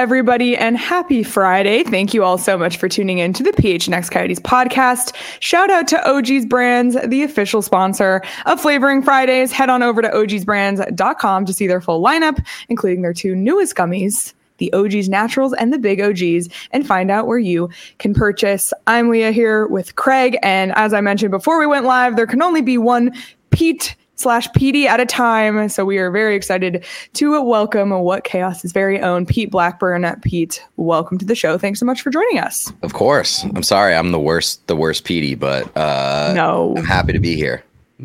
everybody, and happy Friday. Thank you all so much for tuning in to the PHNX Coyotes podcast. Shout out to OG's Brands, the official sponsor of Flavoring Fridays. Head on over to ogsbrands.com to see their full lineup, including their two newest gummies, the OG's Naturals and the Big OGs, and find out where you can purchase. I'm Leah here with Craig, and as I mentioned before we went live, there can only be one Pete/PD at a time, so we are very excited to welcome What Chaos's very own Pete Blackburn. Pete, welcome to the show. Thanks so much for joining us. Of course. I'm sorry I'm the worst PD, but no, I'm happy to be here.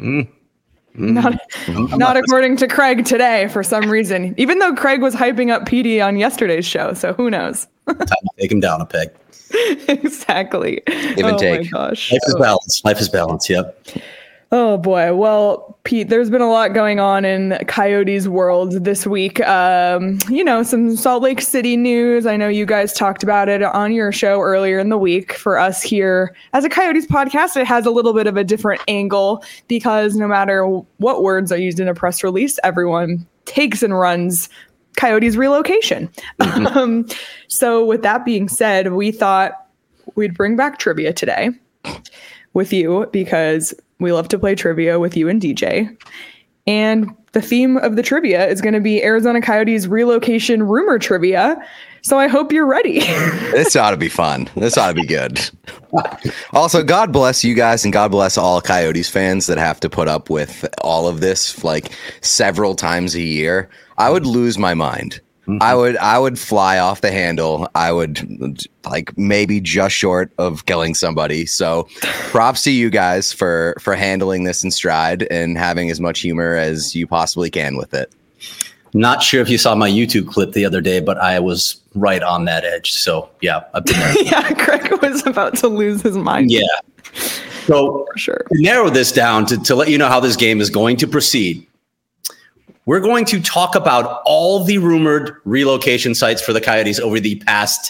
Not according to Craig today for some reason, even though Craig was hyping up PD on yesterday's show, so who knows? Time to take him down a peg. Exactly. Give and take. My gosh. Life is balance. Yep. Oh boy. Well, Pete, there's been a lot going on in Coyotes world this week. Some Salt Lake City news. I know you guys talked about it on your show earlier in the week. For us here as a Coyotes podcast, it has a little bit of a different angle because no matter what words are used in a press release, everyone takes and runs Coyotes relocation. Mm-hmm. So with that being said, we thought we'd bring back trivia today with you because we love to play trivia with you and DJ. And the theme of the trivia is going to be Arizona Coyotes relocation rumor trivia. So I hope you're ready. This ought to be fun. This ought to be good. Also, God bless you guys and God bless all Coyotes fans that have to put up with all of this like several times a year. I would lose my mind. Mm-hmm. I would fly off the handle. I would maybe just short of killing somebody. So props to you guys for handling this in stride and having as much humor as you possibly can with it. Not sure if you saw my YouTube clip the other day, but I was right on that edge. So yeah, I've been there. Yeah, Craig was about to lose his mind. Yeah. So for sure. To narrow this down to let you know how this game is going to proceed, we're going to talk about all the rumored relocation sites for the Coyotes over the past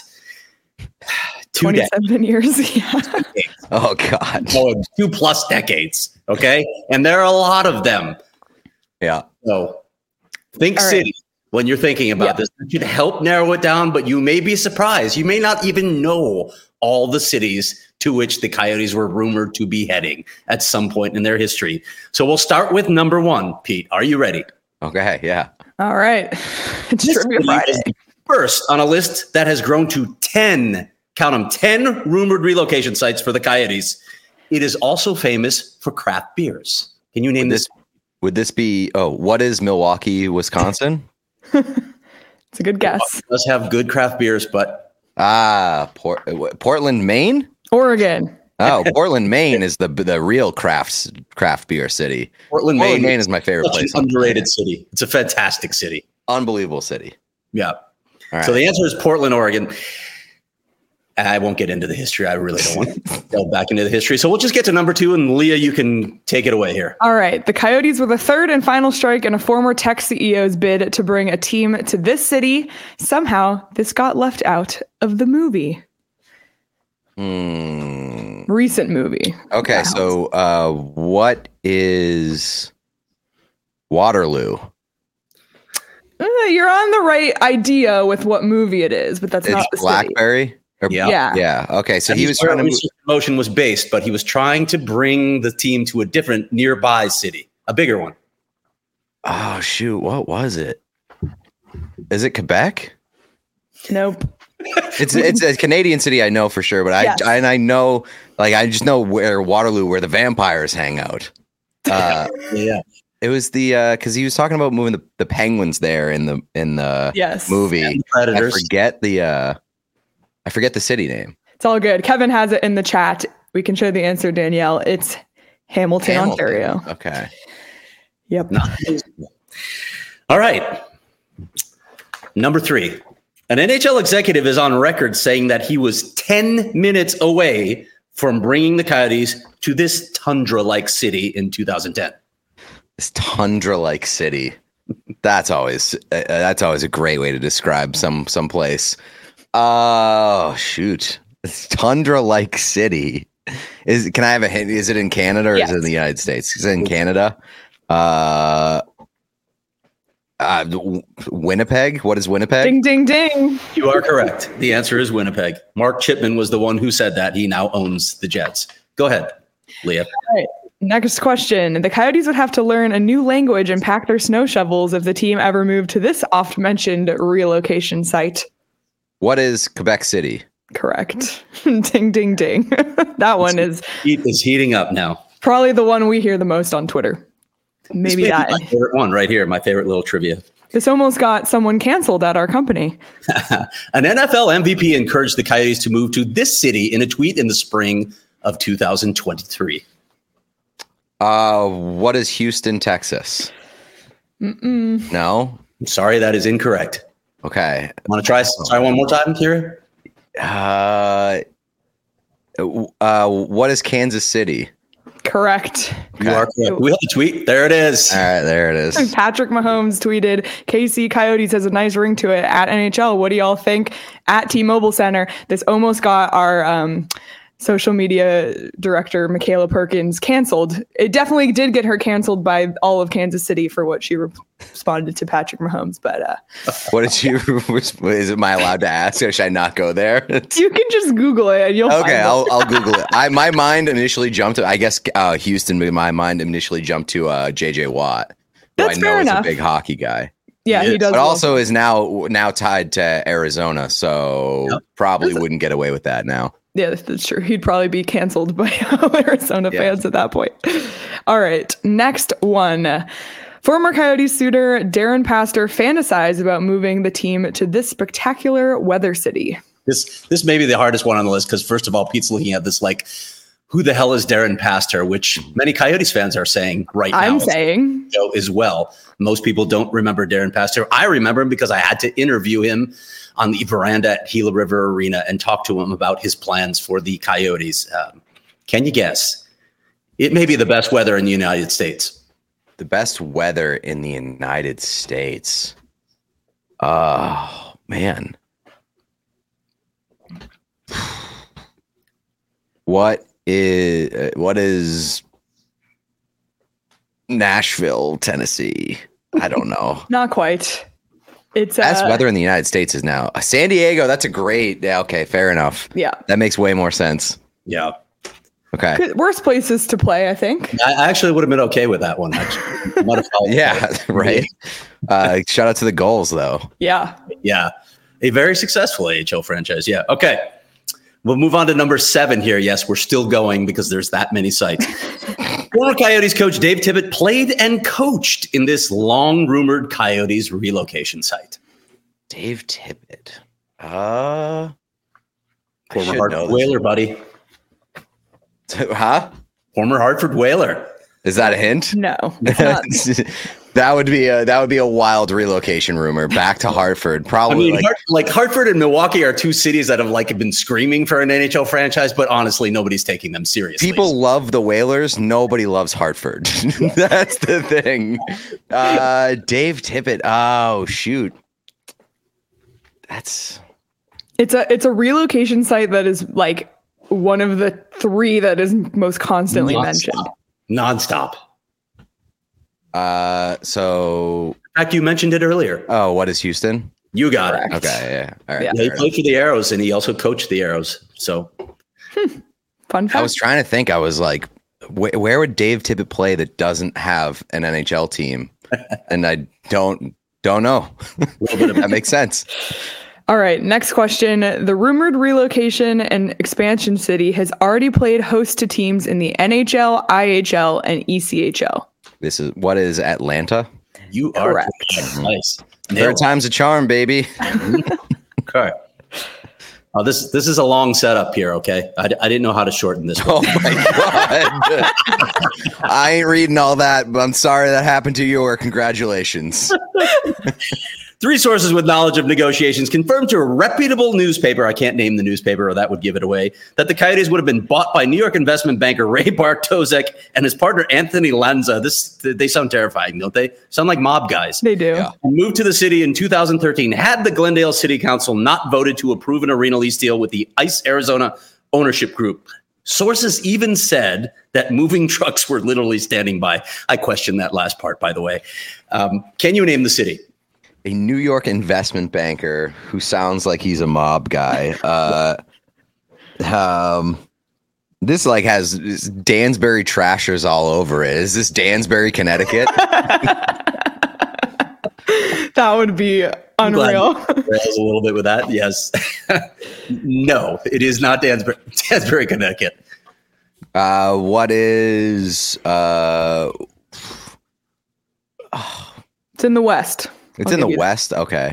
27 years. Yeah. Oh, God. 2+ decades. Okay. And there are a lot of them. Yeah. So think all city when you're thinking about this. It should help narrow it down, but you may be surprised. You may not even know all the cities to which the Coyotes were rumored to be heading at some point in their history. So we'll start with number 1. Pete, are you ready? Okay, yeah. All right. It's Trivia Friday. First on a list that has grown to 10, count them, 10 rumored relocation sites for the Coyotes. It is also famous for craft beers. Can you name this? Would this be, what is Milwaukee, Wisconsin? It's a good guess. It does have good craft beers, but... Portland, Maine? Oregon. Oh, Portland, Maine is the real craft beer city. Portland, Maine is my favorite place. Underrated city. It's a fantastic city. Unbelievable city. Yeah. All right. So the answer is Portland, Oregon. I won't get into the history. I really don't want to delve back into the history. So we'll just get to number 2, and Leah, you can take it away here. All right. The Coyotes were the third and final strike in a former Tech CEO's bid to bring a team to this city. Somehow, this got left out of the movie. Recent movie. Okay, so what is Waterloo? You're on the right idea with what movie it is, but that's not the Blackberry. Yeah. Okay, so he was trying to. Motion was based, but he was trying to bring the team to a different nearby city, a bigger one. Oh shoot! What was it? Is it Quebec? Nope. It's a Canadian city, I know for sure, but I know, I just know where Waterloo, where the vampires hang out. Yeah, it was the because he was talking about moving the penguins there in the movie. And the Predators. I forget the city name. It's all good. Kevin has it in the chat. We can show the answer, Danielle. It's Hamilton, Ontario. Okay. Yep. All right. Number 3. An NHL executive is on record saying that he was 10 minutes away from bringing the Coyotes to this tundra-like city in 2010. This tundra-like city. That's always a great way to describe some place. Oh, shoot. It's tundra-like city. Can I have a hint? Is it in Canada or is it in the United States? Is it in Canada? Winnipeg. What is Winnipeg? Ding, ding, ding. You are correct. The answer is Winnipeg. Mark Chipman was the one who said that. He now owns the Jets. Go ahead, Leah. All right. Next question. The Coyotes would have to learn a new language and pack their snow shovels if the team ever moved to this oft-mentioned relocation site. What is Quebec City? Correct. Ding, ding, ding. That one is heating up now. probably the one we hear the most on Twitter. Maybe This may that. be my favorite one right here. My favorite little trivia. This almost got someone canceled at our company. An NFL MVP encouraged the Coyotes to move to this city in a tweet in the spring of 2023. What is Houston, Texas? No. I'm sorry, that is incorrect. Okay. Want to try one more time, Kira? What is Kansas City? Correct. You are correct. We have the tweet. There it is. All right, there it is. Patrick Mahomes tweeted, KC Coyotes has a nice ring to it at NHL. What do y'all think? At T-Mobile Center. This almost got our social media director, Michaela Perkins, canceled. It definitely did get her canceled by all of Kansas City for what she responded to Patrick Mahomes. But what did you? Am I allowed to ask? Or should I not go there? You can just Google it and you'll find it. I'll Google it. My mind initially jumped to, I guess, Houston. But my mind initially jumped to JJ Watt, who That's I fair know is enough. a big hockey guy. Yeah, he does. But also is now tied to Arizona, so probably wouldn't get away with that now. Yeah, that's true. He'd probably be canceled by Arizona fans at that point. All right, next one. Former Coyotes suitor Darren Pastor fantasized about moving the team to this spectacular weather city. This may be the hardest one on the list because, first of all, Pete's looking at this like, who the hell is Darren Pastor? Which many Coyotes fans are saying right now. I'm saying as well. Most people don't remember Darren Pastor. I remember him because I had to interview him on the veranda at Gila River Arena and talk to him about his plans for the Coyotes. Can you guess? It may be the best weather in the United States. The best weather in the United States. Oh, man. What is Nashville, Tennessee? I don't know. not quite. It's Best weather in the United States is now San Diego. That's a great. Yeah, okay, fair enough. Yeah, that makes way more sense. Yeah. Okay. Worst places to play, I think. I actually would have been okay with that one. Actually, yeah, right. Shout out to the goals, though. Yeah. Yeah, a very successful AHL franchise. Yeah. Okay. We'll move on to number 7 here. Yes, we're still going because there's that many sites. Former Coyotes coach Dave Tippett played and coached in this long-rumored Coyotes relocation site. Dave Tippett. Former Hartford Whaler, buddy. Huh? Former Hartford Whaler. Is that a hint? No, it's not. That would be a wild relocation rumor back to Hartford. Probably. I mean, Hartford and Milwaukee are two cities that have been screaming for an NHL franchise, but honestly, nobody's taking them seriously. People love the Whalers. Nobody loves Hartford. That's the thing. Dave Tippett. Oh shoot. It's a relocation site that is like one of the 3 that is most constantly mentioned. Nonstop. So in fact, you mentioned it earlier. Oh, what is Houston? You got Correct. it. Okay, yeah. All right. Yeah, he played for the Arrows and he also coached the Arrows. So Fun fact. I was trying to think. I was like, where would Dave Tippett play that doesn't have an NHL team? And I don't know. That makes sense. All right, next question. The rumored relocation and expansion city has already played host to teams in the NHL, IHL, and ECHL. What is Atlanta? You are correct. Nice. Third time's a charm, baby. Okay. Oh, this is a long setup here. Okay, I didn't know how to shorten this one. Oh my god! I ain't reading all that, but I'm sorry that happened to you. Or congratulations. 3 sources with knowledge of negotiations confirmed to a reputable newspaper, I can't name the newspaper or that would give it away, that the Coyotes would have been bought by New York investment banker Ray Bartosek and his partner Anthony Lanza. They sound terrifying, don't they? Sound like mob guys. They do. Yeah. Moved to the city in 2013, had the Glendale City Council not voted to approve an arena lease deal with the ICE Arizona ownership group. Sources even said that moving trucks were literally standing by. I question that last part, by the way. Can you name the city? A New York investment banker who sounds like he's a mob guy. This like has Dansbury Trashers all over it. Is this Dansbury, Connecticut? That would be unreal. Rails a little bit with that. Yes. No, it is not Dansbury, Connecticut. What is? It's in the West. It's in the West. Okay.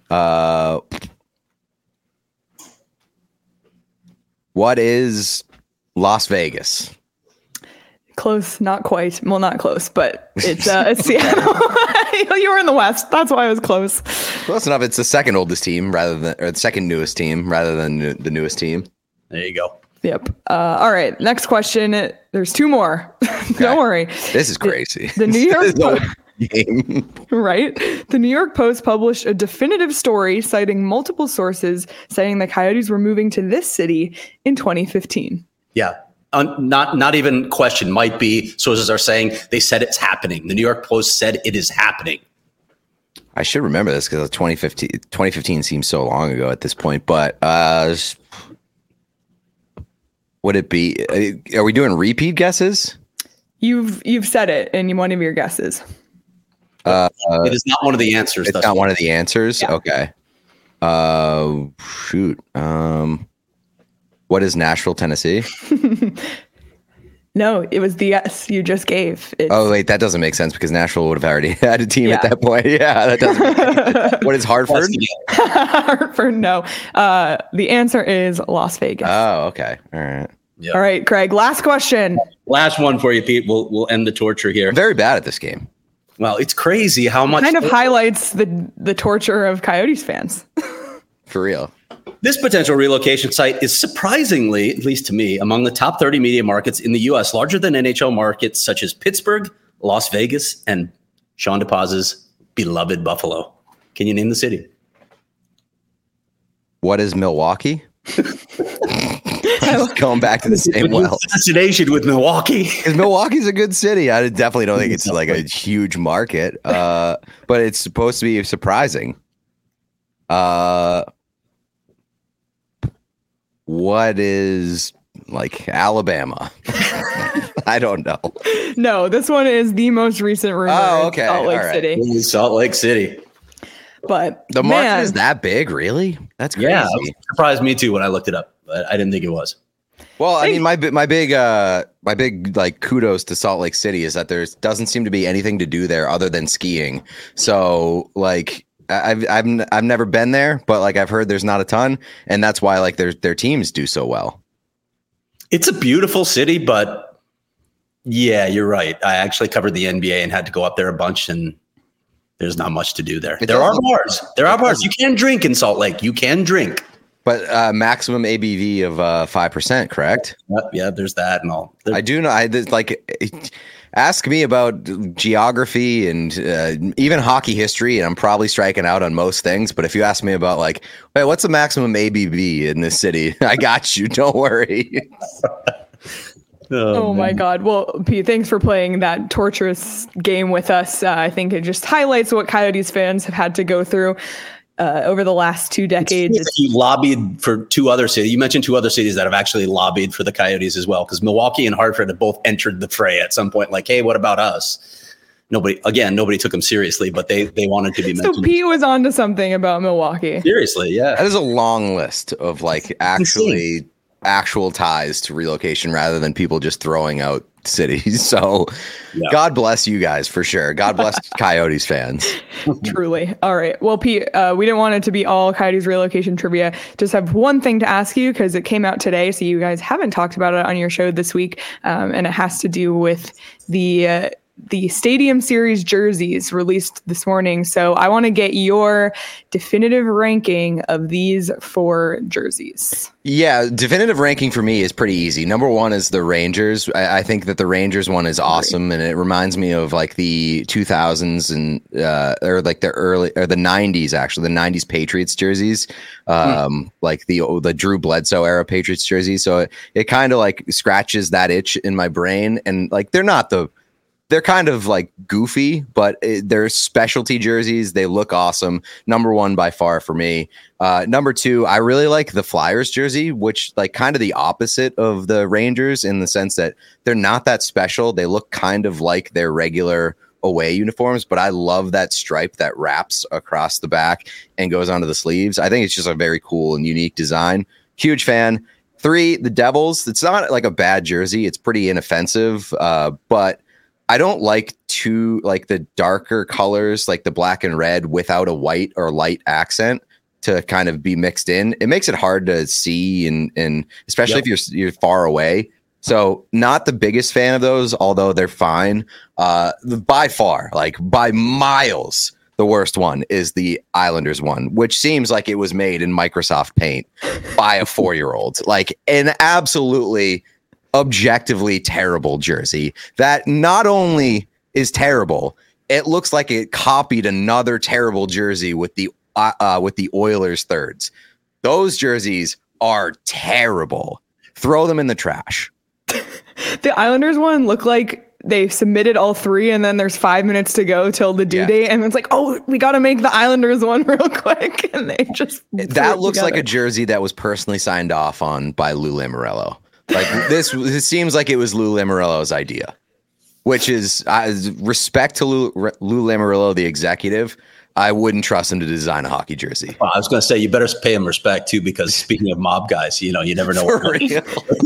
What is Las Vegas? Close, not quite. Well, not close, but it's Seattle. You were in the West. That's why I was close. Close enough. It's the second oldest team or the second newest team rather than the newest team. There you go. Yep. All right. Next question. There's two more. Don't worry. This is crazy. The New York game. Right? The New York Post published a definitive story citing multiple sources saying the Coyotes were moving to this city in 2015. Yeah. Not even question. Might be sources are saying they said it's happening. The New York Post said it is happening. I should remember this because 2015 seems so long ago at this point. But would it be? Are we doing repeat guesses? You've said it in one of your guesses. It is not one of the answers. It's not one of the answers. Yeah. Okay. Shoot. What is Nashville, Tennessee? No, it was the guess you just gave. Oh, wait, that doesn't make sense because Nashville would have already had a team at that point. Yeah, that doesn't make sense. What is Hartford? Hartford, no. The answer is Las Vegas. Oh, okay. All right. Yep. All right, Craig, last question. Last one for you, Pete. We'll end the torture here. I'm very bad at this game. Well, it's crazy how much Kind of highlights the torture of Coyotes fans. For real. This potential relocation site is surprisingly, at least to me, among the top 30 media markets in the U.S., larger than NHL markets such as Pittsburgh, Las Vegas, and Sean DePaz's beloved Buffalo. Can you name the city? What is Milwaukee? Going back to the same well. Fascination with Milwaukee. Because Milwaukee's a good city. I definitely don't think it's like a huge market, but it's supposed to be surprising. What is like Alabama? I don't know. No, this one is the most recent rumor. Oh, okay. Salt Lake City. Salt Lake City. But the market is that big, really? That's crazy. Yeah, it surprised me too when I looked it up, but I didn't think it was. Well, I mean, my big like kudos to Salt Lake City is that there doesn't seem to be anything to do there other than skiing. So like I've never been there, but like I've heard there's not a ton, and that's why like their teams do so well. It's a beautiful city, but yeah, you're right. I actually covered the NBA and had to go up there a bunch, and there's not much to do there. There are bars. There are bars. You can drink in Salt Lake. You can drink. But maximum ABV of 5%, correct? Yeah, there's that and all. I do know. Ask me about geography and even hockey history, and I'm probably striking out on most things. But if you ask me about like, hey, what's the maximum ABV in this city? I got you. Don't worry. Oh my God. Well, Pete, thanks for playing that torturous game with us. I think it just highlights what Coyotes fans have had to go through over the last 2 decades. You lobbied for 2 other cities. You mentioned 2 other cities that have actually lobbied for the Coyotes as well, because Milwaukee and Hartford have both entered the fray at some point. Like, hey, what about us? Nobody took them seriously, but they wanted to be mentioned. So Pete was onto something about Milwaukee. Seriously, yeah. That is a long list of like actual ties to relocation rather than people just throwing out cities. So yeah. God bless you guys for sure. God bless Coyotes fans. Truly. All right. Well, Pete, we didn't want it to be all Coyotes relocation trivia. Just have one thing to ask you because it came out today. So you guys haven't talked about it on your show this week. And it has to do with the Stadium Series jerseys released this morning. So I want to get your definitive ranking of these 4 jerseys. Yeah, definitive ranking for me is pretty easy. Number 1 is the Rangers. I think that the Rangers one is awesome, and it reminds me of like the 2000s and or like the early or the 90s actually, the 90s Patriots jerseys, like the Drew Bledsoe era Patriots jersey. So it kind of like scratches that itch in my brain, and like they're not the they're kind of like goofy, but they're specialty jerseys. They look awesome. Number one by far for me. Number two, I really like the Flyers jersey, which like kind of the opposite of the Rangers in the sense that they're not that special. They look kind of like their regular away uniforms, but I love that stripe that wraps across the back and goes onto the sleeves. I think it's just a very cool and unique design. Huge fan. 3, the Devils. It's not like a bad jersey. It's pretty inoffensive, but I don't like the darker colors, like the black and red without a white or light accent to kind of be mixed in. It makes it hard to see and especially if you're far away. So not the biggest fan of those, although they're fine. By far, like by miles, the worst one is the Islanders one, which seems like it was made in Microsoft Paint by a 4-year-old. Like an absolutely objectively terrible jersey that not only is terrible, it looks like it copied another terrible jersey with the Oilers thirds. Those jerseys are terrible. Throw them in the trash. The Islanders one looked like they submitted all 3 and then there's 5 minutes to go till the due date. And it's like, oh, we got to make the Islanders one real quick. And they just. That looks like a jersey that was personally signed off on by Lou Lamoriello. Like this seems like it was Lou Lamoriello's idea, which is respect to Lou Lamoriello, the executive. I wouldn't trust him to design a hockey jersey. Well, I was going to say, you better pay him respect, too, because speaking of mob guys, you never know. For real.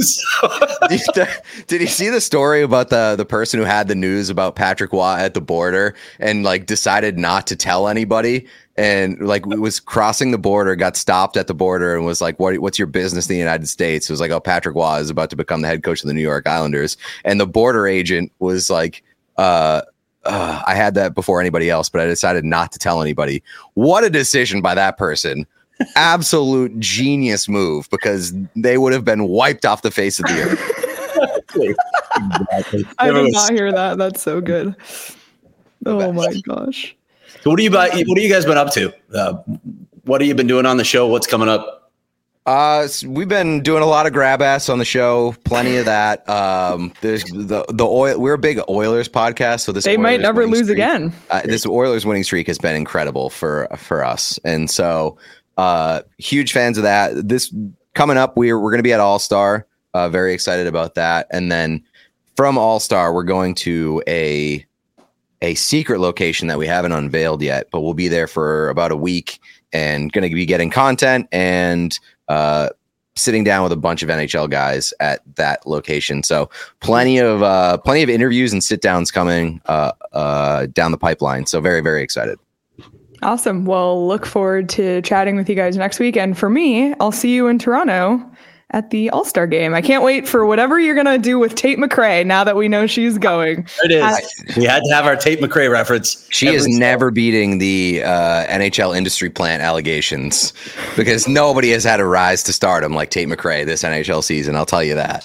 Did you see the story about the person who had the news about Patrick Waugh at the border and like decided not to tell anybody and like was crossing the border, got stopped at the border and was like, what's your business in the United States? It was like, oh, Patrick Waugh is about to become the head coach of the New York Islanders. And the border agent was like, I had that before anybody else, but I decided not to tell anybody. What a decision by that person. Absolute genius move, because they would have been wiped off the face of the earth. Exactly. I did not hear that. That's so good. Oh my gosh. So what have you guys been up to? What have you been doing on the show? What's coming up? We've been doing a lot of grab ass on the show, plenty of that. There's the oil. We're a big Oilers podcast, so this they Oilers might never lose streak, again. This Oilers winning streak has been incredible for us, and so huge fans of that. This coming up, we're going to be at All Star. Very excited about that, and then from All Star, we're going to a secret location that we haven't unveiled yet, but we'll be there for about a week and going to be getting content and sitting down with a bunch of NHL guys at that location. So plenty of interviews and sit downs coming down the pipeline. So very, very excited. Awesome. Well, look forward to chatting with you guys next week. And for me, I'll see you in Toronto at the All-Star game. I can't wait for whatever you're going to do with Tate McRae now that we know she's going. It is. We had to have our Tate McRae reference. She is never beating the NHL industry plant allegations, because nobody has had a rise to stardom like Tate McRae this NHL season. I'll tell you that.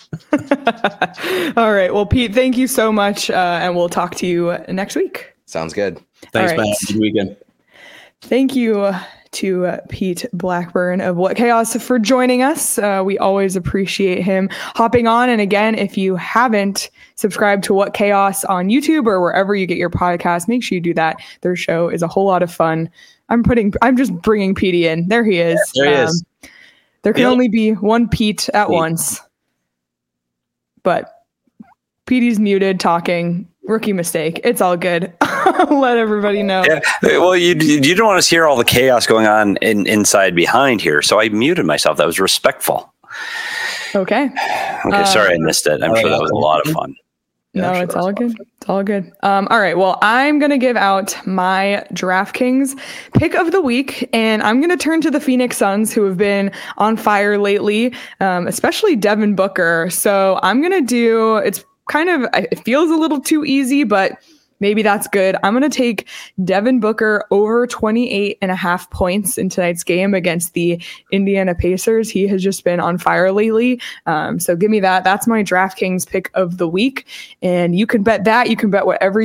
All right. Well, Pete, thank you so much. And we'll talk to you next week. Sounds good. Thanks, man. Good weekend. Thank you to Pete Blackburn of What Chaos for joining us. We always appreciate him hopping on. And again, if you haven't subscribed to What Chaos on YouTube or wherever you get your podcast, make sure you do that. Their show is a whole lot of fun. I'm just bringing Petey in. There he is. There he is. There can only be one Pete at once. But Petey's muted talking. Rookie mistake. It's all good. Let everybody know. Yeah. Well, you don't want to hear all the chaos going on inside behind here, so I muted myself. That was respectful. Okay. Okay. Sorry, I missed it. I'm sure that was a lot of fun. No, it's all good. It's all good. All right. Well, I'm going to give out my DraftKings pick of the week, and I'm going to turn to the Phoenix Suns, who have been on fire lately, especially Devin Booker. So I'm going to do, it feels a little too easy, but maybe that's good. I'm going to take Devin Booker over 28.5 points in tonight's game against the Indiana Pacers. He has just been on fire lately. So give me that. That's my DraftKings pick of the week. And you can bet that. You can bet whatever you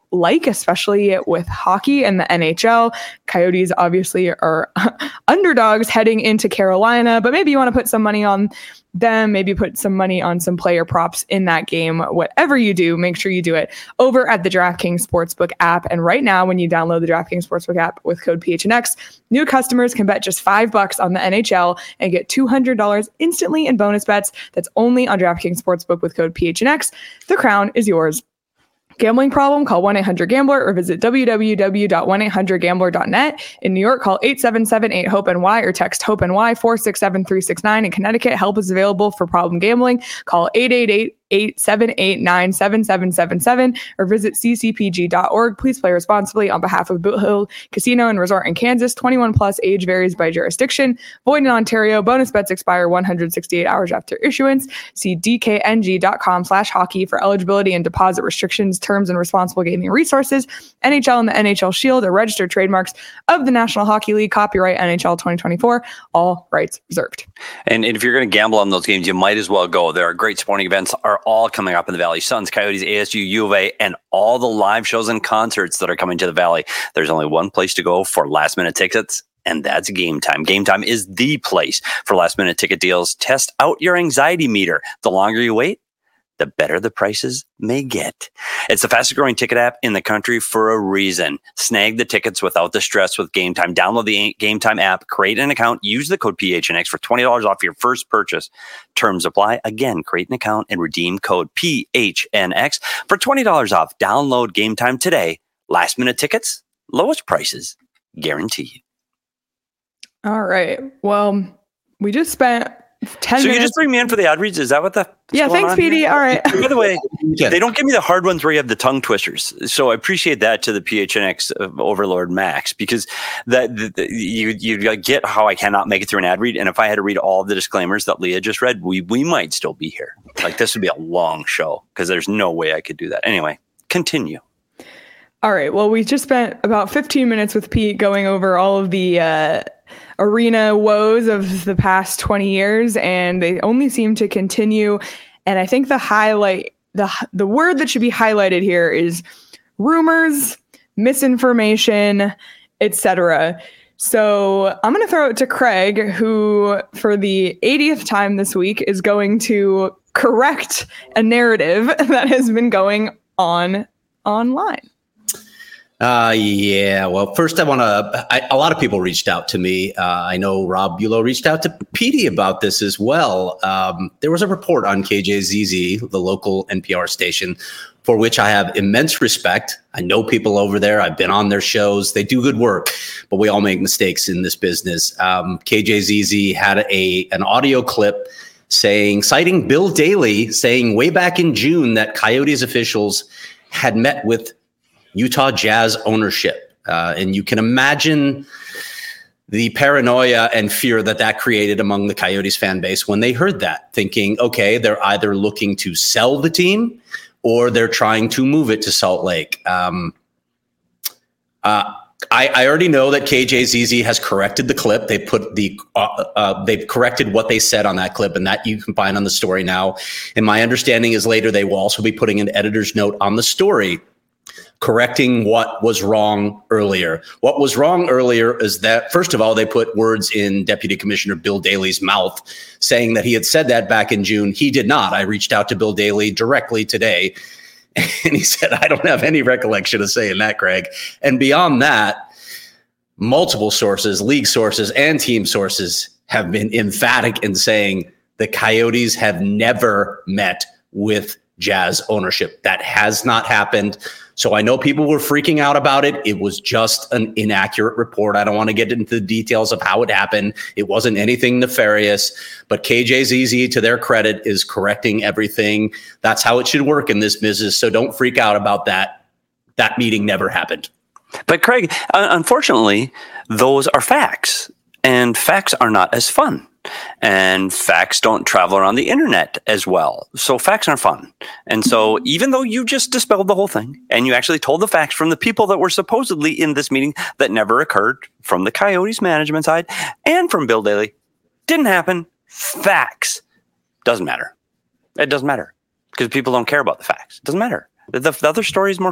like, especially with hockey and the NHL. Coyotes obviously are underdogs heading into Carolina, but maybe you want to put some money on them, maybe put some money on some player props in that game. Whatever you do, make sure you do it over at the DraftKings Sportsbook app. And right now, when you download the DraftKings Sportsbook app with code PHNX, new customers can bet just $5 on the NHL and get $200 instantly in bonus bets. That's only on DraftKings Sportsbook with code PHNX. The crown is yours. Gambling problem? Call 1-800-GAMBLER or visit www.1800gambler.net. In New York, call 877-8-HOPE-NY or text HOPE-NY 467-369. In Connecticut, help is available for problem gambling. Call 888-878-9777 or visit ccpg.org. Please play responsibly on behalf of Boot Hill Casino and Resort in Kansas. 21 plus, age varies by jurisdiction. Void in Ontario. Bonus bets expire 168 hours after issuance. See dkng.com/hockey for eligibility and deposit restrictions, terms, and responsible gaming resources. NHL and the NHL Shield are registered trademarks of the National Hockey League. Copyright NHL 2024. All rights reserved. And if you're going to gamble on those games, you might as well go. There are great sporting events are all coming up in the Valley. Suns, Coyotes, ASU, U of A, and all the live shows and concerts that are coming to the Valley. There's only one place to go for last-minute tickets, and that's Game Time. Game Time is the place for last-minute ticket deals. Test out your anxiety meter. The longer you wait, the better the prices may get. It's the fastest growing ticket app in the country for a reason. Snag the tickets without the stress with Game Time. Download the Game Time app, create an account, use the code PHNX for $20 off your first purchase. Terms apply. Again, create an account and redeem code PHNX for $20 off. Download Game Time today. Last minute tickets, lowest prices, guaranteed. All right. Well, we just spent 10 so minutes. You just bring me in for the ad reads? Is that what the... Yeah, thanks, PD. All right. By the way, they don't give me the hard ones where you have the tongue twisters. So I appreciate that to the PHNX overlord Max, because you get how I cannot make it through an ad read. And if I had to read all of the disclaimers that Leah just read, we might still be here. Like, this would be a long show because there's no way I could do that. Anyway, continue. All right. Well, we just spent about 15 minutes with Pete going over all of the arena woes of the past 20 years, and they only seem to continue. And I think the highlight, the word that should be highlighted here is rumors, misinformation, etc. So I'm going to throw it to Craig, who for the 80th time this week is going to correct a narrative that has been going on online. Yeah. Well, first I want to, a lot of people reached out to me. I know Rob Bulow reached out to Petey about this as well. There was a report on KJZZ, the local NPR station, for which I have immense respect. I know people over there. I've been on their shows. They do good work, but we all make mistakes in this business. KJZZ had an audio clip citing Bill Daly, saying way back in June that Coyotes officials had met with Utah Jazz ownership. And you can imagine the paranoia and fear that created among the Coyotes fan base when they heard that, thinking, okay, they're either looking to sell the team or they're trying to move it to Salt Lake. I already know that KJZZ has corrected the clip. They put they've corrected what they said on that clip, and that you can find on the story now. And my understanding is later they will also be putting an editor's note on the story, correcting what was wrong earlier. What was wrong earlier is that, first of all, they put words in Deputy Commissioner Bill Daly's mouth saying that he had said that back in June. He did not. I reached out to Bill Daly directly today, and he said, I don't have any recollection of saying that, Craig. And beyond that, multiple sources, league sources and team sources have been emphatic in saying the Coyotes have never met with Jazz ownership. That has not happened. So I know people were freaking out about it. It was just an inaccurate report. I don't want to get into the details of how it happened. It wasn't anything nefarious, but KJZZ, to their credit, is correcting everything. That's how it should work in this business. So don't freak out about that. That meeting never happened. But Craig, unfortunately, those are facts, and facts are not as fun. And facts don't travel around the internet as well. So facts aren't fun. And so even though you just dispelled the whole thing and you actually told the facts from the people that were supposedly in this meeting that never occurred, from the Coyotes management side and from Bill Daly, didn't happen. Facts. Doesn't matter. It doesn't matter because people don't care about the facts. It doesn't matter. The other story is more fun.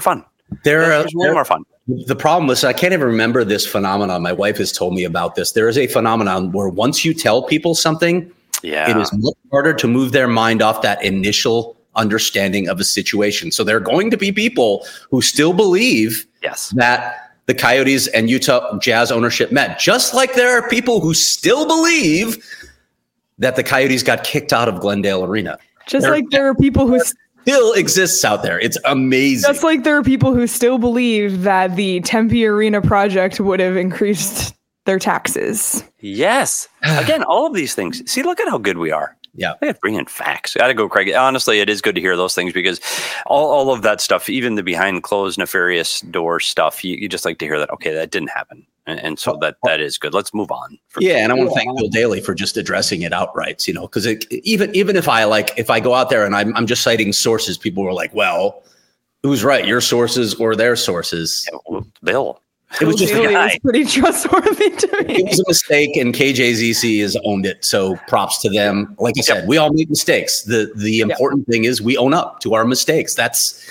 They're way more fun. The problem is I can't even remember this phenomenon. My wife has told me about this. There is a phenomenon where once you tell people something, it is much harder to move their mind off that initial understanding of a situation. So there are going to be people who still believe that the Coyotes and Utah Jazz ownership met, just like there are people who still believe that the Coyotes got kicked out of Glendale Arena. Just like there are people who still exists out there. It's amazing. Just like there are people who still believe that the Tempe Arena project would have increased their taxes. Yes. Again, all of these things. See, look at how good we are. Yeah. I got to bring in facts. Got to go, Craig. Honestly, it is good to hear those things because all of that stuff, even the behind closed nefarious door stuff, you just like to hear that, okay, that didn't happen. And so that is good. Let's move on. And I want to thank Bill Daly for just addressing it outright, because even if I go out there and I'm just citing sources, people were like, well, who's right, your sources or their sources? Yeah, well, Bill. It was just pretty trustworthy to me. It was a mistake, and KJZC has owned it. So props to them. Like I said, we all make mistakes. The important thing is we own up to our mistakes. That's,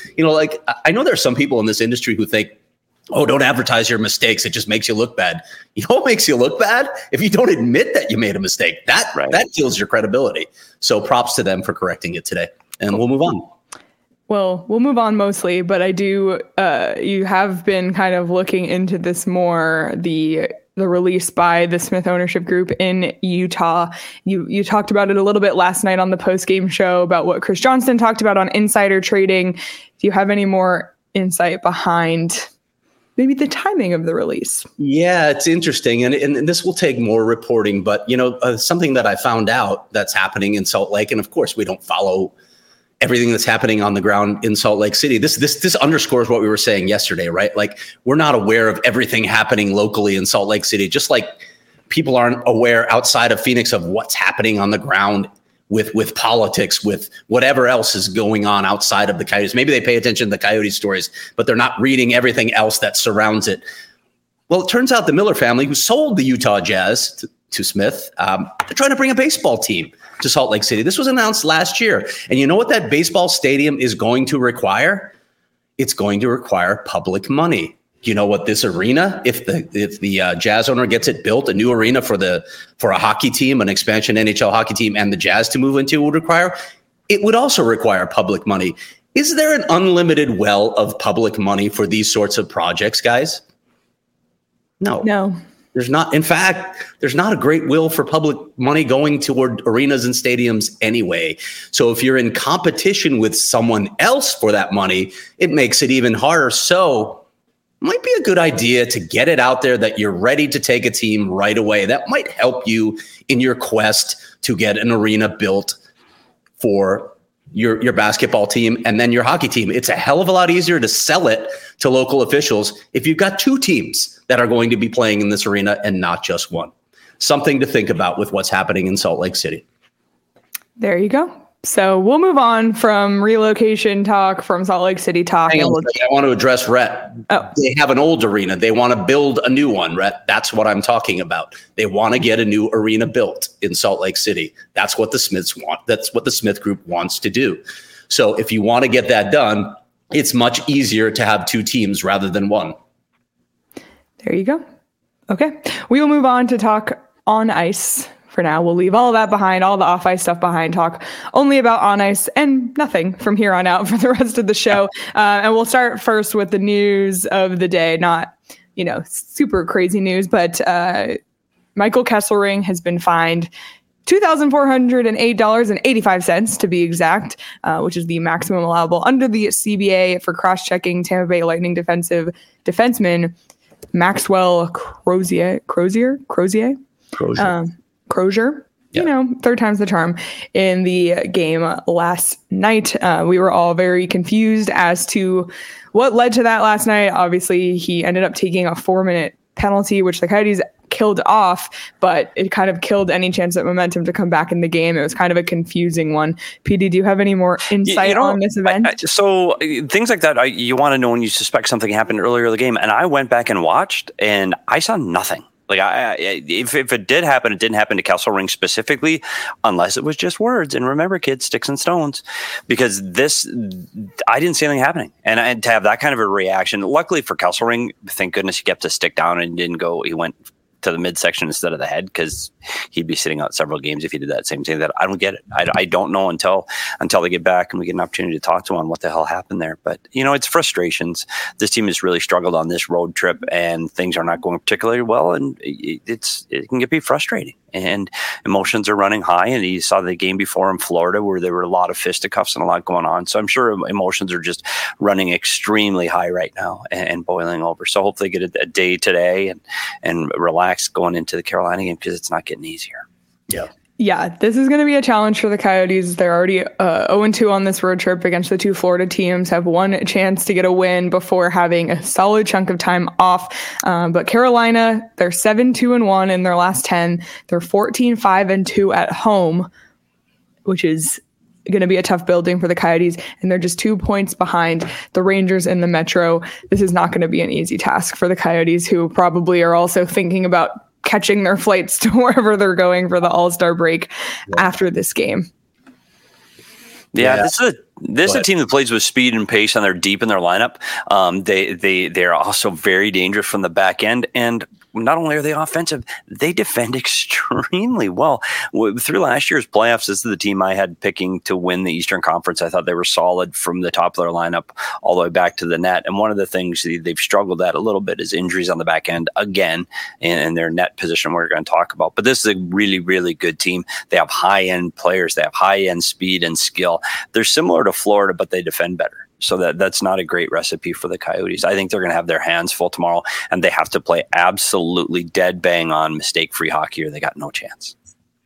I know there are some people in this industry who think, oh, don't advertise your mistakes. It just makes you look bad. You know what makes you look bad? If you don't admit that you made a mistake, that kills your credibility. So props to them for correcting it today. And we'll move on. Well, we'll move on mostly, but I do, you have been kind of looking into this more, the release by the Smith ownership group in Utah. You talked about it a little bit last night on the post-game show about what Chris Johnston talked about on insider trading. Do you have any more insight behind maybe the timing of the release? Yeah, it's interesting. And this will take more reporting, but something that I found out that's happening in Salt Lake, and of course we don't follow everything that's happening on the ground in Salt Lake City. This underscores what we were saying yesterday, right? Like, we're not aware of everything happening locally in Salt Lake City, just like people aren't aware outside of Phoenix of what's happening on the ground with politics, with whatever else is going on outside of the Coyotes. Maybe they pay attention to the Coyote stories, but they're not reading everything else that surrounds it. Well, it turns out the Miller family, who sold the Utah Jazz to Smith, they're trying to bring a baseball team to Salt Lake City. This was announced last year. And you know what that baseball stadium is going to require? It's going to require public money. You know what this arena, if the Jazz owner gets it built, a new arena for a hockey team, an expansion NHL hockey team, and the Jazz to move into would require? It would also require public money. Is there an unlimited well of public money for these sorts of projects, guys? No. There's not. In fact, there's not a great will for public money going toward arenas and stadiums anyway. So if you're in competition with someone else for that money, it makes it even harder. So it might be a good idea to get it out there that you're ready to take a team right away. That might help you in your quest to get an arena built for your basketball team and then your hockey team. It's a hell of a lot easier to sell it to local officials if you've got two teams that are going to be playing in this arena and not just one. Something to think about with what's happening in Salt Lake City. There you go. So we'll move on from relocation talk, from Salt Lake City talk. I want to address Rhett. Oh. They have an old arena. They want to build a new one, Rhett. That's what I'm talking about. They want to get a new arena built in Salt Lake City. That's what the Smiths want. That's what the Smith Group wants to do. So if you want to get that done, it's much easier to have two teams rather than one. There you go. Okay. We will move on to talk on ice. For now, we'll leave all of that behind, all the off-ice stuff behind, talk only about on ice and nothing from here on out for the rest of the show. And we'll start first with the news of the day. Not, super crazy news, but Michael Kesselring has been fined $2,408.85 to be exact, which is the maximum allowable under the CBA for cross-checking Tampa Bay Lightning defenseman Maxwell Crozier. Crozier, third time's the charm in the game last night. We were all very confused as to what led to that last night. Obviously, he ended up taking a 4-minute penalty, which the Coyotes killed off, but it kind of killed any chance of momentum to come back in the game. It was kind of a confusing one. PD, do you have any more insight on this event? So things like that, you want to know when you suspect something happened earlier in the game. And I went back and watched, and I saw nothing. Like if it did happen, it didn't happen to Kesselring specifically, unless it was just words. And remember, kids, sticks and stones, because I didn't see anything happening. And to have that kind of a reaction, luckily for Kesselring, thank goodness he kept his stick down and didn't go. He went to the midsection instead of the head, because he'd be sitting out several games if he did that same thing. That I don't get it. I don't know until they get back and we get an opportunity to talk to him on what the hell happened there. But it's frustrations. This team has really struggled on this road trip, and things are not going particularly well, and it can be frustrating. And emotions are running high. And you saw the game before in Florida where there were a lot of fisticuffs and a lot going on. So I'm sure emotions are just running extremely high right now and boiling over. So hopefully get a day today and relax going into the Carolina game, because it's not getting easier. Yeah. Yeah, this is going to be a challenge for the Coyotes. They're already 0-2 on this road trip against the two Florida teams, have one chance to get a win before having a solid chunk of time off. But Carolina, they're 7-2-1 in their last 10. They're 14-5-2 at home, which is going to be a tough building for the Coyotes. And they're just 2 points behind the Rangers in the Metro. This is not going to be an easy task for the Coyotes, who probably are also thinking about catching their flights to wherever they're going for the All-Star break after this game. Yeah, this is a team that plays with speed and pace, and they're deep in their lineup. They're also very dangerous from the back end, and not only are they offensive, they defend extremely well. Through last year's playoffs, this is the team I had picking to win the Eastern Conference. I thought they were solid from the top of their lineup all the way back to the net. And one of the things they've struggled at a little bit is injuries on the back end again, and their net position we're going to talk about. But this is a really, really good team. They have high-end players. They have high-end speed and skill. They're similar to Florida, but they defend better. So that's not a great recipe for the Coyotes. I think they're going to have their hands full tomorrow, and they have to play absolutely dead bang on mistake-free hockey, or they got no chance.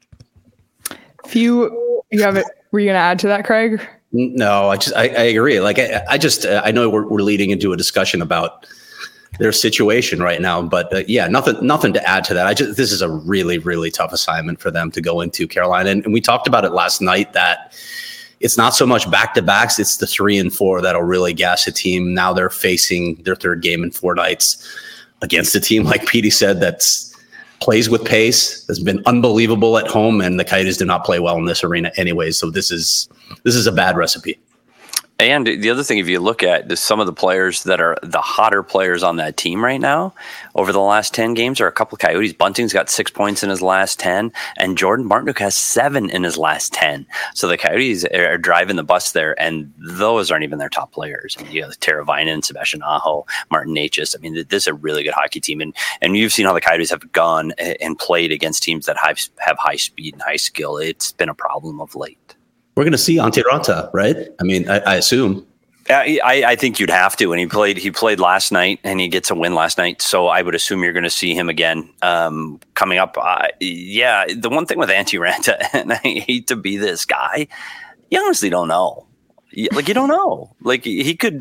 Were you going to add to that, Craig? No, I agree. Like I know we're leading into a discussion about their situation right now, but nothing to add to that. This is a really, really tough assignment for them to go into, Carolina, and we talked about it last night that it's not so much back-to-backs, it's the 3 and 4 that'll really gas a team. Now they're facing their third game in 4 nights against a team, like Petey said, that's plays with pace, has been unbelievable at home, and the Coyotes do not play well in this arena anyway. So this is a bad recipe. And the other thing, if you look at some of the players that are the hotter players on that team right now, over the last 10 games are a couple of Coyotes. Bunting's got 6 points in his last 10, and Jordan Martinook has 7 in his last 10. So the Coyotes are driving the bus there, and those aren't even their top players. I mean, you know, Tara Vinen, Sebastian Aho, Martin Necas. I mean, this is a really good hockey team, and you've seen how the Coyotes have gone and played against teams that have high speed and high skill. It's been a problem of late. We're going to see Antti Raanta, right? I mean, I assume. I think you'd have to, and he played last night, and he gets a win last night. So I would assume you're going to see him again coming up. The one thing with Antti Raanta, and I hate to be this guy, you honestly don't know. Like, you don't know. Like, he could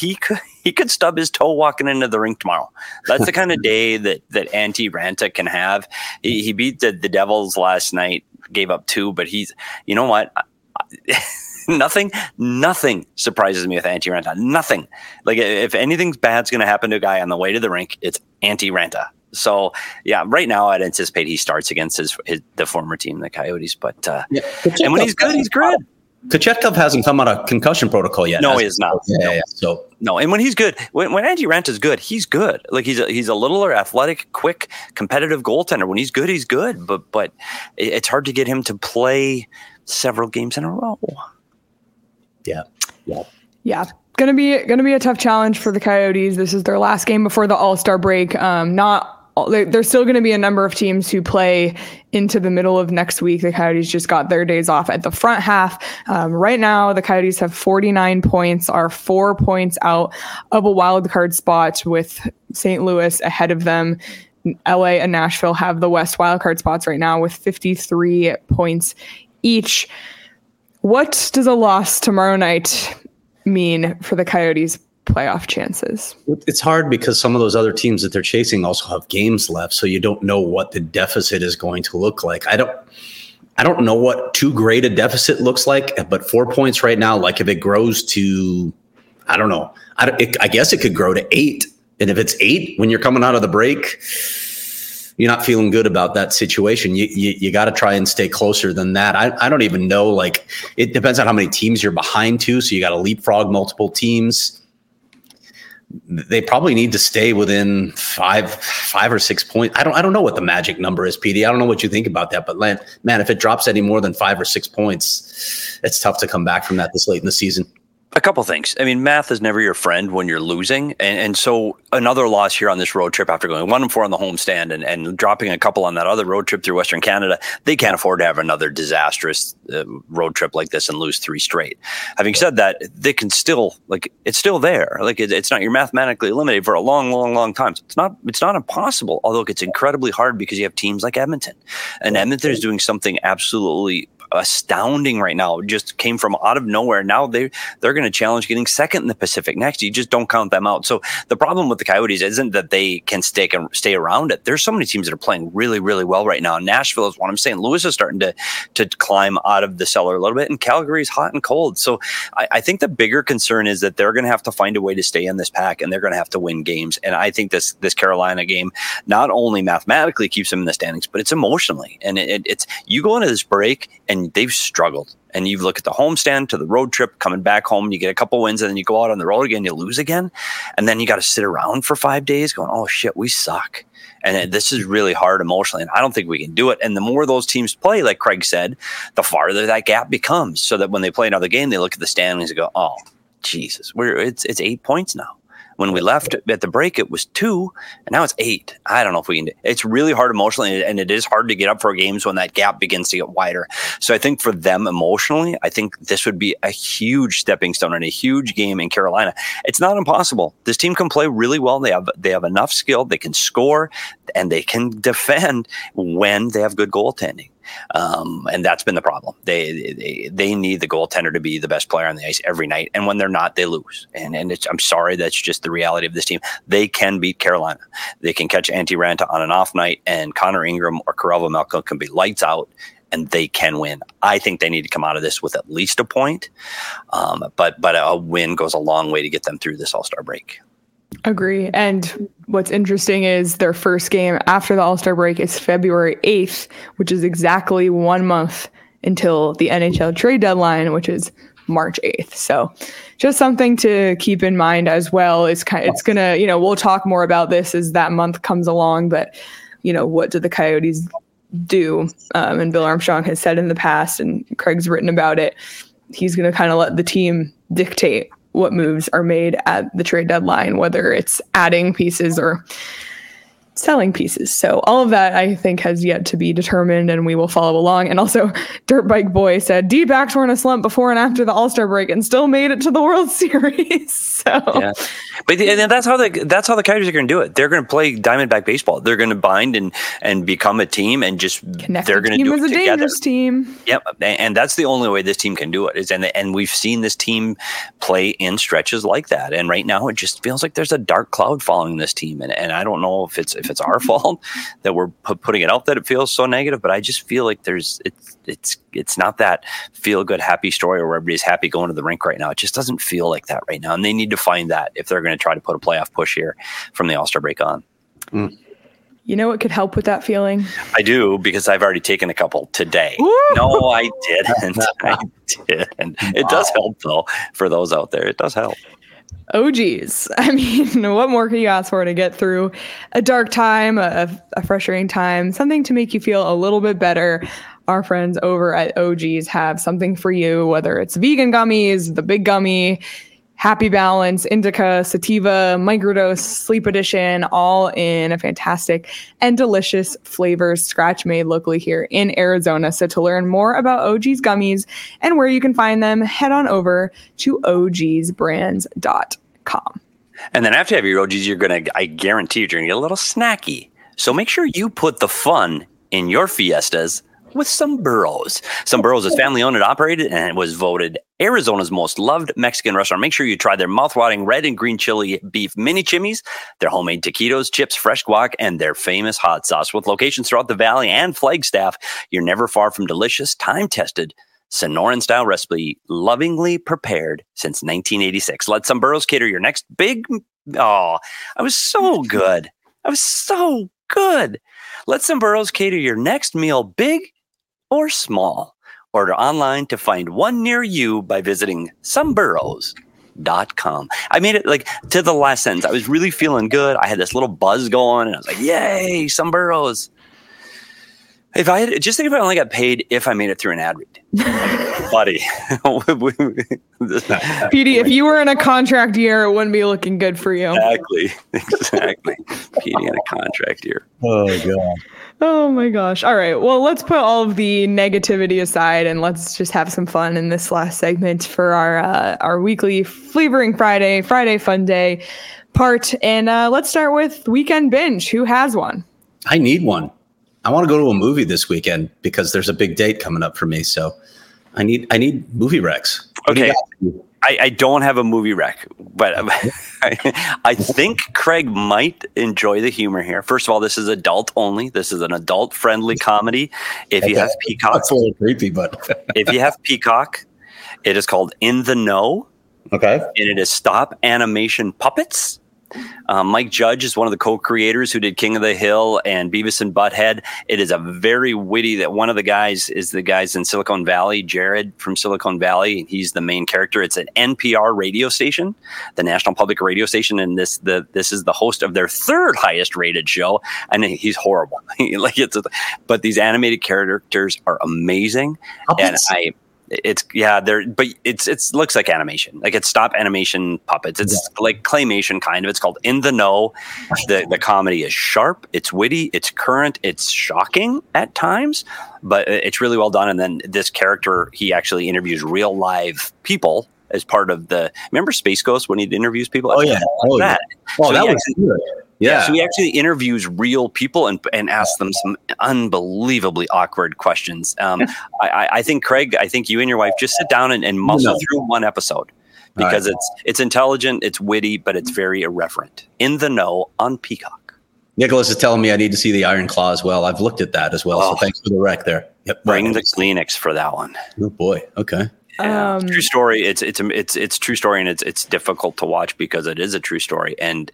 stub his toe walking into the rink tomorrow. That's the kind of day that Antti Raanta can have. He beat the Devils last night, gave up 2, but you know what? Nothing surprises me with Antti Raanta. Nothing. Like, if anything bad's going to happen to a guy on the way to the rink, it's Antti Raanta. So, yeah, right now I'd anticipate he starts against the former team, the Coyotes. But and when he's good, he's good. Kochetkov hasn't come out of concussion protocol yet. No, he is not. Yeah. So no, and when he's good, when Antti Raanta is good, he's good. Like, he's a littler, athletic, quick, competitive goaltender. When he's good, he's good. But it's hard to get him to play several games in a row. Yeah. Gonna be a tough challenge for the Coyotes. This is their last game before the All-Star break. There's still going to be a number of teams who play into the middle of next week. The Coyotes just got their days off at the front half. Right now, the Coyotes have 49 points, are 4 points out of a wild card spot, with St. Louis ahead of them. LA and Nashville have the West wild card spots right now with 53 points each. What does a loss tomorrow night mean for the Coyotes' playoff chances? It's hard because some of those other teams that they're chasing also have games left, so you don't know what the deficit is going to look like. I don't know what too great a deficit looks like, but 4 points right now, like if it grows to, I don't know, I guess it could grow to 8. And if it's 8 when you're coming out of the break, you're not feeling good about that situation, you got to try and stay closer than that. I don't even know. Like, it depends on how many teams you're behind to. So you got to leapfrog multiple teams. They probably need to stay within five or 6 points. I don't know what the magic number is, PD. I don't know what you think about that, but man, if it drops any more than 5 or 6 points, it's tough to come back from that this late in the season. A couple things. I mean, math is never your friend when you're losing. And so another loss here on this road trip after going 1-4 on the homestand and dropping a couple on that other road trip through Western Canada, they can't afford to have another disastrous road trip like this and lose 3 straight. Having said that, they can still, like, it's still there. Like, it's not, you're mathematically eliminated for a long, long, long time. So it's not impossible, although it gets incredibly hard because you have teams like Edmonton. And Edmonton is doing something absolutely astounding right now. Just came from out of nowhere. Now they're going to challenge getting second in the Pacific next. You just don't count them out. So the problem with the Coyotes isn't that they can stay around it. There's so many teams that are playing really, really well right now. Nashville is one. I'm saying Louis is starting to climb out of the cellar a little bit, and Calgary is hot and cold. So I think the bigger concern is that they're going to have to find a way to stay in this pack, and they're going to have to win games. And I think this Carolina game not only mathematically keeps them in the standings, but it's emotionally. And it's you go into this break and they've struggled. And you look at the homestand to the road trip, coming back home, you get a couple wins, and then you go out on the road again, you lose again. And then you got to sit around for 5 days going, oh shit, we suck. And this is really hard emotionally. And I don't think we can do it. And the more those teams play, like Craig said, the farther that gap becomes, so that when they play another game, they look at the standings and go, oh, Jesus, it's 8 points now. When we left at the break, it was 2, and now it's 8. I don't know if we can do it. It's really hard emotionally, and it is hard to get up for games when that gap begins to get wider. So I think for them emotionally, I think this would be a huge stepping stone and a huge game in Carolina. It's not impossible. This team can play really well. They have enough skill. They can score, and they can defend when they have good goaltending. And that's been the problem. They need the goaltender to be the best player on the ice every night, and when they're not, they lose. And I'm sorry, that's just the reality of this team. They can beat Carolina. They can catch Antti Ranta on an off night, and Connor Ingram or Karel Vejmelka can be lights out, and they can win. I think they need to come out of this with at least a point, but a win goes a long way to get them through this All-Star break. Agree. And what's interesting is their first game after the All-Star break is February 8th, which is exactly 1 month until the NHL trade deadline, which is March 8th. So just something to keep in mind as well. It's going to, we'll talk more about this as that month comes along, but what do the Coyotes do? And Bill Armstrong has said in the past, and Craig's written about it, he's going to kind of let the team dictate what moves are made at the trade deadline, whether it's adding pieces or selling pieces. So all of that, I think, has yet to be determined, and we will follow along. And also, Dirt Bike Boy said, D-backs were in a slump before and after the All-Star break and still made it to the World Series. So, yeah. But that's how the Coyotes are going to do it. They're going to play Diamondback baseball. They're going to bind and become a team, and just they're going to do it together. Dangerous team. Yep, and that's the only way this team can do it. And we've seen this team play in stretches like that. And right now, it just feels like there's a dark cloud following this team. And I don't know if it's our fault that we're putting it out that it feels so negative, but I just feel like it's not that feel good happy story where everybody's happy going to the rink right now. It just doesn't feel like that right now, and they need to find that if they're going to try to put a playoff push here from the All-Star break on. You know what could help with that feeling? I do, because I've already taken a couple today. Woo! No, I didn't. It does help, though, for those out there. It does help. Oh, geez. I mean, what more can you ask for to get through a dark time, a frustrating time, something to make you feel a little bit better? Our friends over at OG's have something for you, whether it's vegan gummies, the big gummy, Happy Balance, Indica, Sativa, Microdose, Sleep Edition, all in a fantastic and delicious flavors, scratch made locally here in Arizona. So to learn more about OG's gummies and where you can find them, head on over to ogsbrands.com. And then after you have your OGs, I guarantee you're going to get a little snacky. So make sure you put the fun in your fiestas with Sombreros. Sombreros is family owned and operated, and it was voted Arizona's most loved Mexican restaurant. Make sure you try their mouth-watering red and green chili beef mini chimneys, their homemade taquitos, chips, fresh guac, and their famous hot sauce. With locations throughout the valley and Flagstaff, you're never far from delicious, time-tested Sonoran-style recipe, lovingly prepared since 1986. Let Sombreros cater your next big... Oh, I was so good. I was so good. Let Somburros cater your next meal, big or small. Order online to find one near you by visiting Somburros.com. I made it like to the last sentence. I was really feeling good. I had this little buzz going, and I was like, yay, Somburros. If I had, just think if I only got paid if I made it through an ad read. Buddy. Petey, if you were in a contract year, it wouldn't be looking good for you. Exactly. Petey in a contract year. Oh, God. Oh my gosh. All right. Well, let's put all of the negativity aside and let's just have some fun in this last segment for our weekly Flavoring Friday Fun Day part. And let's start with Weekend Binge. Who has one? I need one. I want to go to a movie this weekend because there's a big date coming up for me. So I need movie recs. Okay. I don't have a movie rec, but I think Craig might enjoy the humor here. First of all, this is adult only. This is an adult friendly comedy. If you have Peacock, that's a little creepy, but if you have Peacock, it is called In the Know. Okay. And it is stop animation puppets. Mike Judge is one of the co-creators who did King of the Hill and Beavis and Butthead. It is a very witty, that one of the guys is the guys in Silicon Valley, Jared from Silicon Valley. He's the main character. It's an NPR radio station, the National Public Radio Station, and this is the host of their third highest rated show, and he's horrible. But these animated characters are amazing, puppets. And it looks like animation, like it's stop animation puppets. It's like claymation kind of. It's called In the Know. The comedy is sharp, it's witty, it's current, it's shocking at times, but it's really well done. And then this character, he actually interviews real live people as part of remember Space Ghost when he interviews people? Oh yeah. That Was good. Yeah. So he actually interviews real people and asks them some unbelievably awkward questions. I think, Craig, you and your wife just sit down and muscle through one episode because it's intelligent, it's witty, but it's very irreverent. In the Know on Peacock. Nicholas is telling me I need to see the Iron Claw as well. I've looked at that as well. So thanks for the rec there. Yep. Bring the Kleenex for that one. Oh boy. Okay. Yeah, true story. It's true story, and it's difficult to watch because it is a true story, and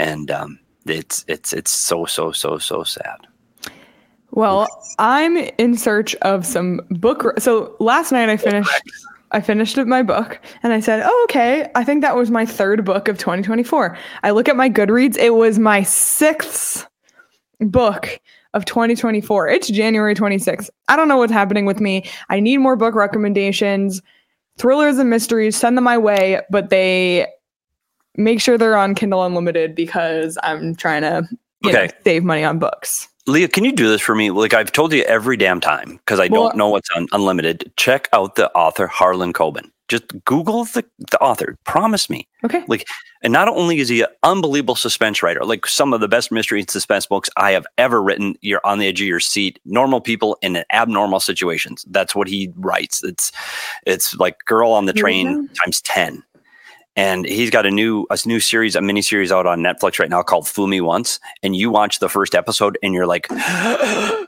it's so sad. Well, I'm in search of some book. So last night I finished my book and I said, oh, okay, I think that was my third book of 2024. I look at my Goodreads. It was my sixth book of 2024. It's January 26th. I don't know what's happening with me. I need more book recommendations, thrillers and mysteries, send them my way, but they make sure they're on Kindle Unlimited because I'm trying to save money on books. Leah, can you do this for me? Like I've told you every damn time because I don't know what's on Unlimited. Check out the author Harlan Coben. Just Google the author. Promise me. Okay. And not only is he an unbelievable suspense writer, like some of the best mystery and suspense books I have ever written. You're on the edge of your seat. Normal people in abnormal situations. That's what he writes. It's like Girl on the Train times 10. And he's got a new series, a mini series out on Netflix right now called Fool Me Once. And you watch the first episode and you're like, I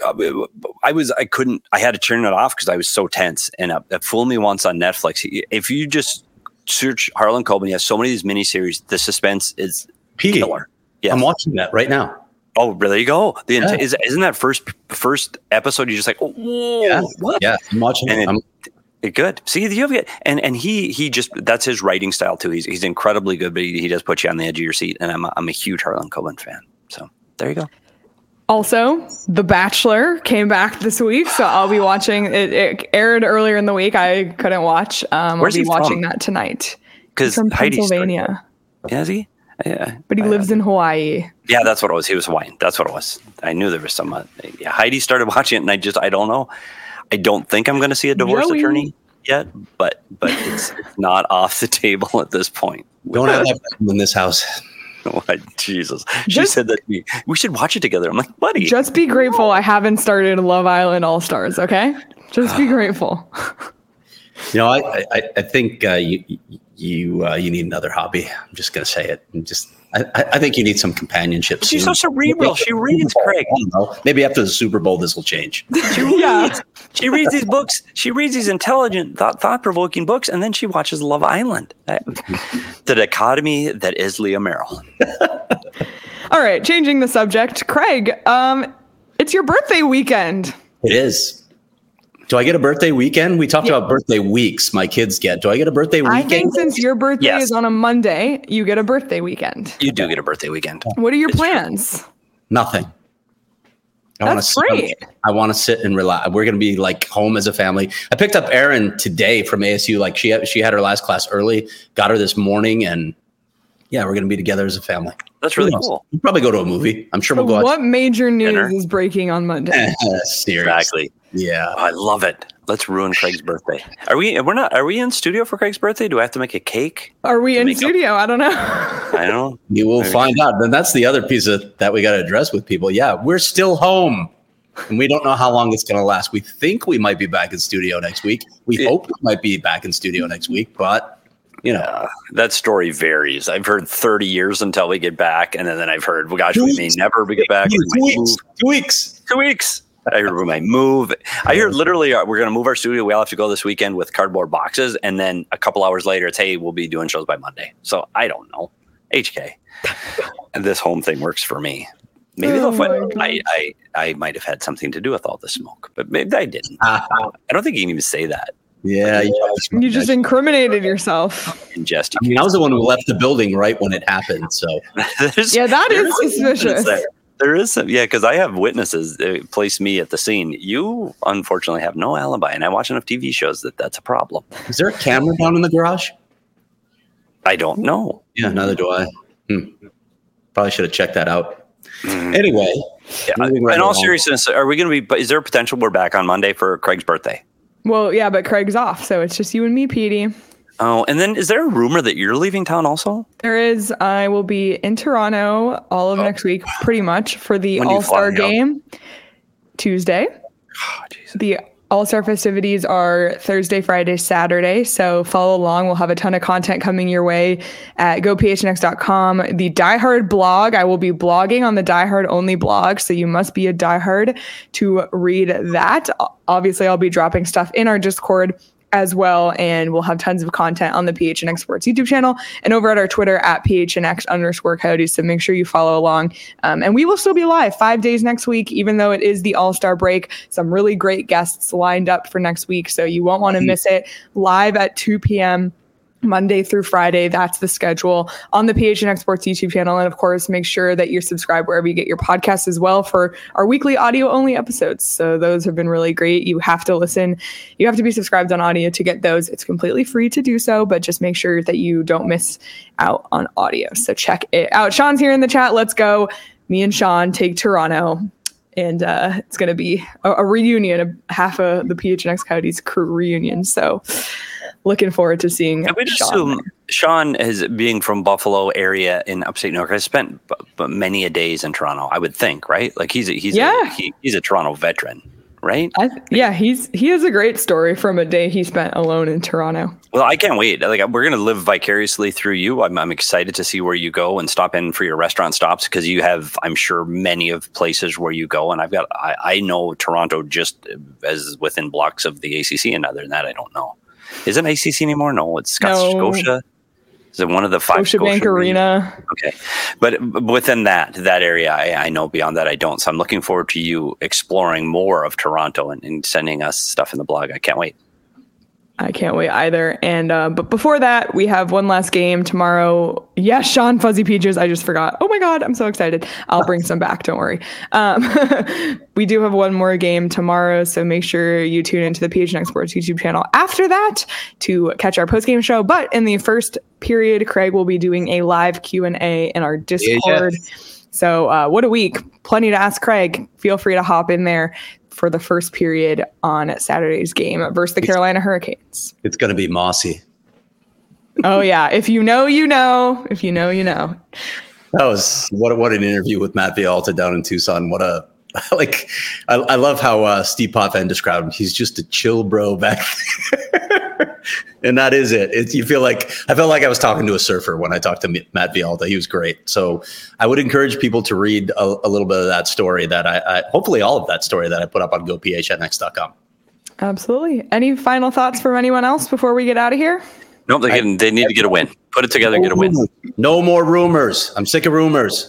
had to turn it off because I was so tense. And Fool Me Once on Netflix. If you just search Harlan Coben, he has so many of these mini series. The suspense is killer. Yes. I'm watching that right now. Oh, there you go. Isn't that first episode? You're just like, whoa, what? Yeah, I'm watching it. Good. See, you have and he just, that's his writing style too. He's incredibly good, but he does put you on the edge of your seat. And I'm a huge Harlan Coben fan. So there you go. Also, The Bachelor came back this week, so I'll be watching. It aired earlier in the week. I couldn't watch. I'll be watching that tonight. Because from Pennsylvania. Is he? Yeah. But he lives in Hawaii. Yeah, that's what it was. He was Hawaiian. That's what it was. I knew there was some. Heidi started watching it, and I don't know. I don't think I'm going to see a divorce attorney yet, but it's not off the table at this point. Don't have that in this house. What? Jesus. She said that we should watch it together. I'm like, buddy. Just be grateful I haven't started Love Island All-Stars, okay? Just be grateful. I think you need another hobby. I'm just going to say it. I think you need some companionship. She's so cerebral. She reads, Craig. I don't know. Maybe after the Super Bowl, this will change. She reads these books. She reads these intelligent, thought-provoking books, and then she watches Love Island. The dichotomy that is Leah Merrill. All right, changing the subject. Craig, it's your birthday weekend. It is. Do I get a birthday weekend? We talked about birthday weeks my kids get. Do I get a birthday weekend? I think since your birthday is on a Monday, you get a birthday weekend. You do get a birthday weekend. What are your plans? Nothing. That's great. I want to sit and relax. We're going to be like home as a family. I picked up Erin today from ASU. Like she had her last class early, got her this morning, and yeah, we're going to be together as a family. That's really cool. We'll probably go to a movie. I'm sure we'll go. What major news is breaking on Monday? Seriously. Exactly. Yeah. I love it. Let's ruin Craig's birthday. Are we in studio for Craig's birthday? Do I have to make a cake? Are we in studio? I don't know. I don't know. You will find out. Then that's the other piece that we got to address with people. Yeah, we're still home. And we don't know how long it's going to last. We think we might be back in studio next week. We hope we might be back in studio next week, but that story varies. I've heard 30 years until we get back, and then I've heard, well, gosh, we may never get back. 2 weeks. 2 weeks. I heard we might move. I heard literally we're going to move our studio. We all have to go this weekend with cardboard boxes, and then a couple hours later, it's, hey, we'll be doing shows by Monday. So I don't know. HK. And this home thing works for me. Maybe I might have had something to do with all the smoke, but maybe I didn't. I don't think you can even say that. Yeah, you just incriminated yourself. Ingest. I mean, I was the one who left the building right when it happened. So that is suspicious. There is some, because I have witnesses place me at the scene. You unfortunately have no alibi, and I watch enough TV shows that's a problem. Is there a camera down in the garage? I don't know. Yeah, neither do I. Probably should have checked that out. Anyway, in all seriousness, are we going to be? Is there a potential we're back on Monday for Craig's birthday? Well, yeah, but Craig's off, so it's just you and me, Petey. Oh, and then is there a rumor that you're leaving town also? There is. I will be in Toronto all of next week, pretty much, for the All-Star game Tuesday. Oh, the All-Star festivities are Thursday, Friday, Saturday. So follow along. We'll have a ton of content coming your way at gophnx.com. The Die Hard blog, I will be blogging on the Die Hard only blog. So you must be a Die Hard to read that. Obviously, I'll be dropping stuff in our Discord as well, and we'll have tons of content on the PHNX Sports YouTube channel and over at our Twitter at PHNX_Coyotes. So make sure you follow along. And we will still be live 5 days next week, even though it is the All-Star break. Some really great guests lined up for next week, so you won't want to miss it. Live at 2 p.m. Monday through Friday. That's the schedule on the PHNX Sports YouTube channel. And of course, make sure that you're subscribed wherever you get your podcasts as well for our weekly audio only episodes. So those have been really great. You have to listen. You have to be subscribed on audio to get those. It's completely free to do so, but just make sure that you don't miss out on audio. So check it out. Sean's here in the chat. Let's go. Me and Sean take Toronto. And it's going to be a reunion, half of the PHNX Coyotes crew reunion. So looking forward to seeing Sean is being from Buffalo area in upstate New York. I spent many a days in Toronto, I would think, right? Like he's a Toronto veteran, right? He has a great story from a day he spent alone in Toronto. Well, I can't wait. Like we're going to live vicariously through you. I'm excited to see where you go and stop in for your restaurant stops, because you have, I'm sure, many of places where you go. And I know Toronto just as within blocks of the ACC, and other than that, I don't know. Is it ACC anymore? No, it's Scotia. Is it one of the five? Scotiabank Arena. Okay. But within that area, I know. Beyond that, I don't. So I'm looking forward to you exploring more of Toronto and sending us stuff in the blog. I can't wait. I can't wait either. And but before that, we have one last game tomorrow. Yes, Sean, Fuzzy Peaches. I just forgot. Oh my God, I'm so excited. I'll bring some back. Don't worry. We do have one more game tomorrow, so make sure you tune into the PHNX Sports YouTube channel after that to catch our post-game show. But in the first period, Craig will be doing a live Q&A in our Discord. Yes. So what a week. Plenty to ask Craig. Feel free to hop in there for the first period on Saturday's game versus the Carolina Hurricanes. It's going to be mossy. Oh yeah. If you know, you know. If you know, you know. That was what an interview with Matt Villalta down in Tucson. I love how Steve Potvin described him. He's just a chill bro back there. And that is it. I felt like I was talking to a surfer when I talked to Matt Villalta. He was great. So I would encourage people to read a little bit of that story that hopefully all of that story that I put up on gophnx.com. Absolutely. Any final thoughts from anyone else before we get out of here? Nope, they need to get a win. Put it together and get a win. No more rumors. I'm sick of rumors.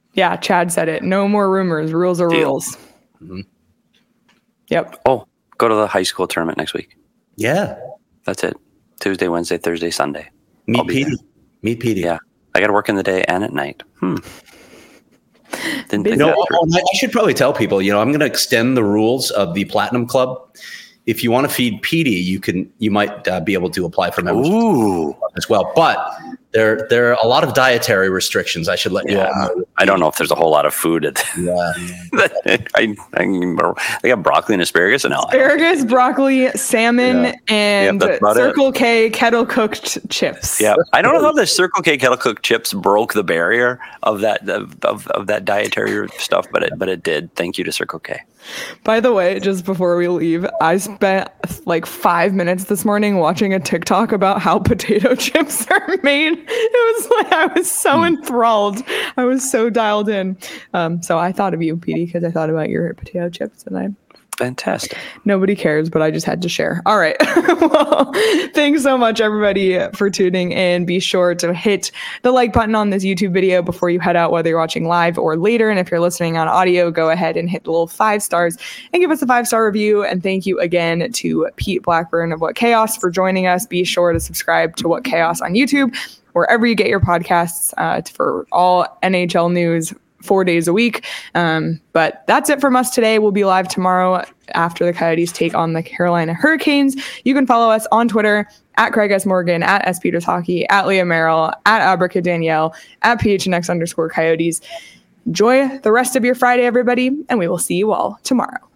Yeah, Chad said it. No more rumors. Rules are Deal. rules. Mhm. Yep. Oh, go to the high school tournament next week. Yeah. That's it. Tuesday, Wednesday, Thursday, Sunday. Meet I'll be Petey. there. Meet Petey. Yeah. I got to work in the day and at night. Didn't think No, that through. I should probably tell people, I'm going to extend the rules of the Platinum Club. If you want to feed Petey, you might be able to apply for membership as well. But there are a lot of dietary restrictions. I should let you all know. I don't know if there's a whole lot of food at they got broccoli and asparagus and all. Asparagus, broccoli, salmon, and that's about Circle K kettle cooked chips. Yeah, I don't know how the Circle K kettle cooked chips broke the barrier of that of that dietary stuff, but it did. Thank you to Circle K. By the way, just before we leave, I spent like 5 minutes this morning watching a TikTok about how potato chips are made. It was like I was so enthralled. I was so dialed in. So I thought of you, Petey, because I thought about your potato chips, and Fantastic. nobody cares, but I just had to share. All right. Well, thanks so much, everybody, for tuning in. Be sure to hit the like button on this YouTube video before you head out, whether you're watching live or later. And if you're listening on audio, go ahead and hit the little 5 stars and give us a 5-star review. And thank you again to Pete Blackburn of What Chaos for joining us. Be sure to subscribe to What Chaos on YouTube, wherever you get your podcasts, for all NHL news 4 days a week. But that's it from us today. We'll be live tomorrow after the Coyotes take on the Carolina Hurricanes. You can follow us on Twitter at Craig S. Morgan, at S. Peters Hockey, at Leah Merrill, at Abrica Danielle, at PHNX_Coyotes. Enjoy the rest of your Friday, everybody, and we will see you all tomorrow.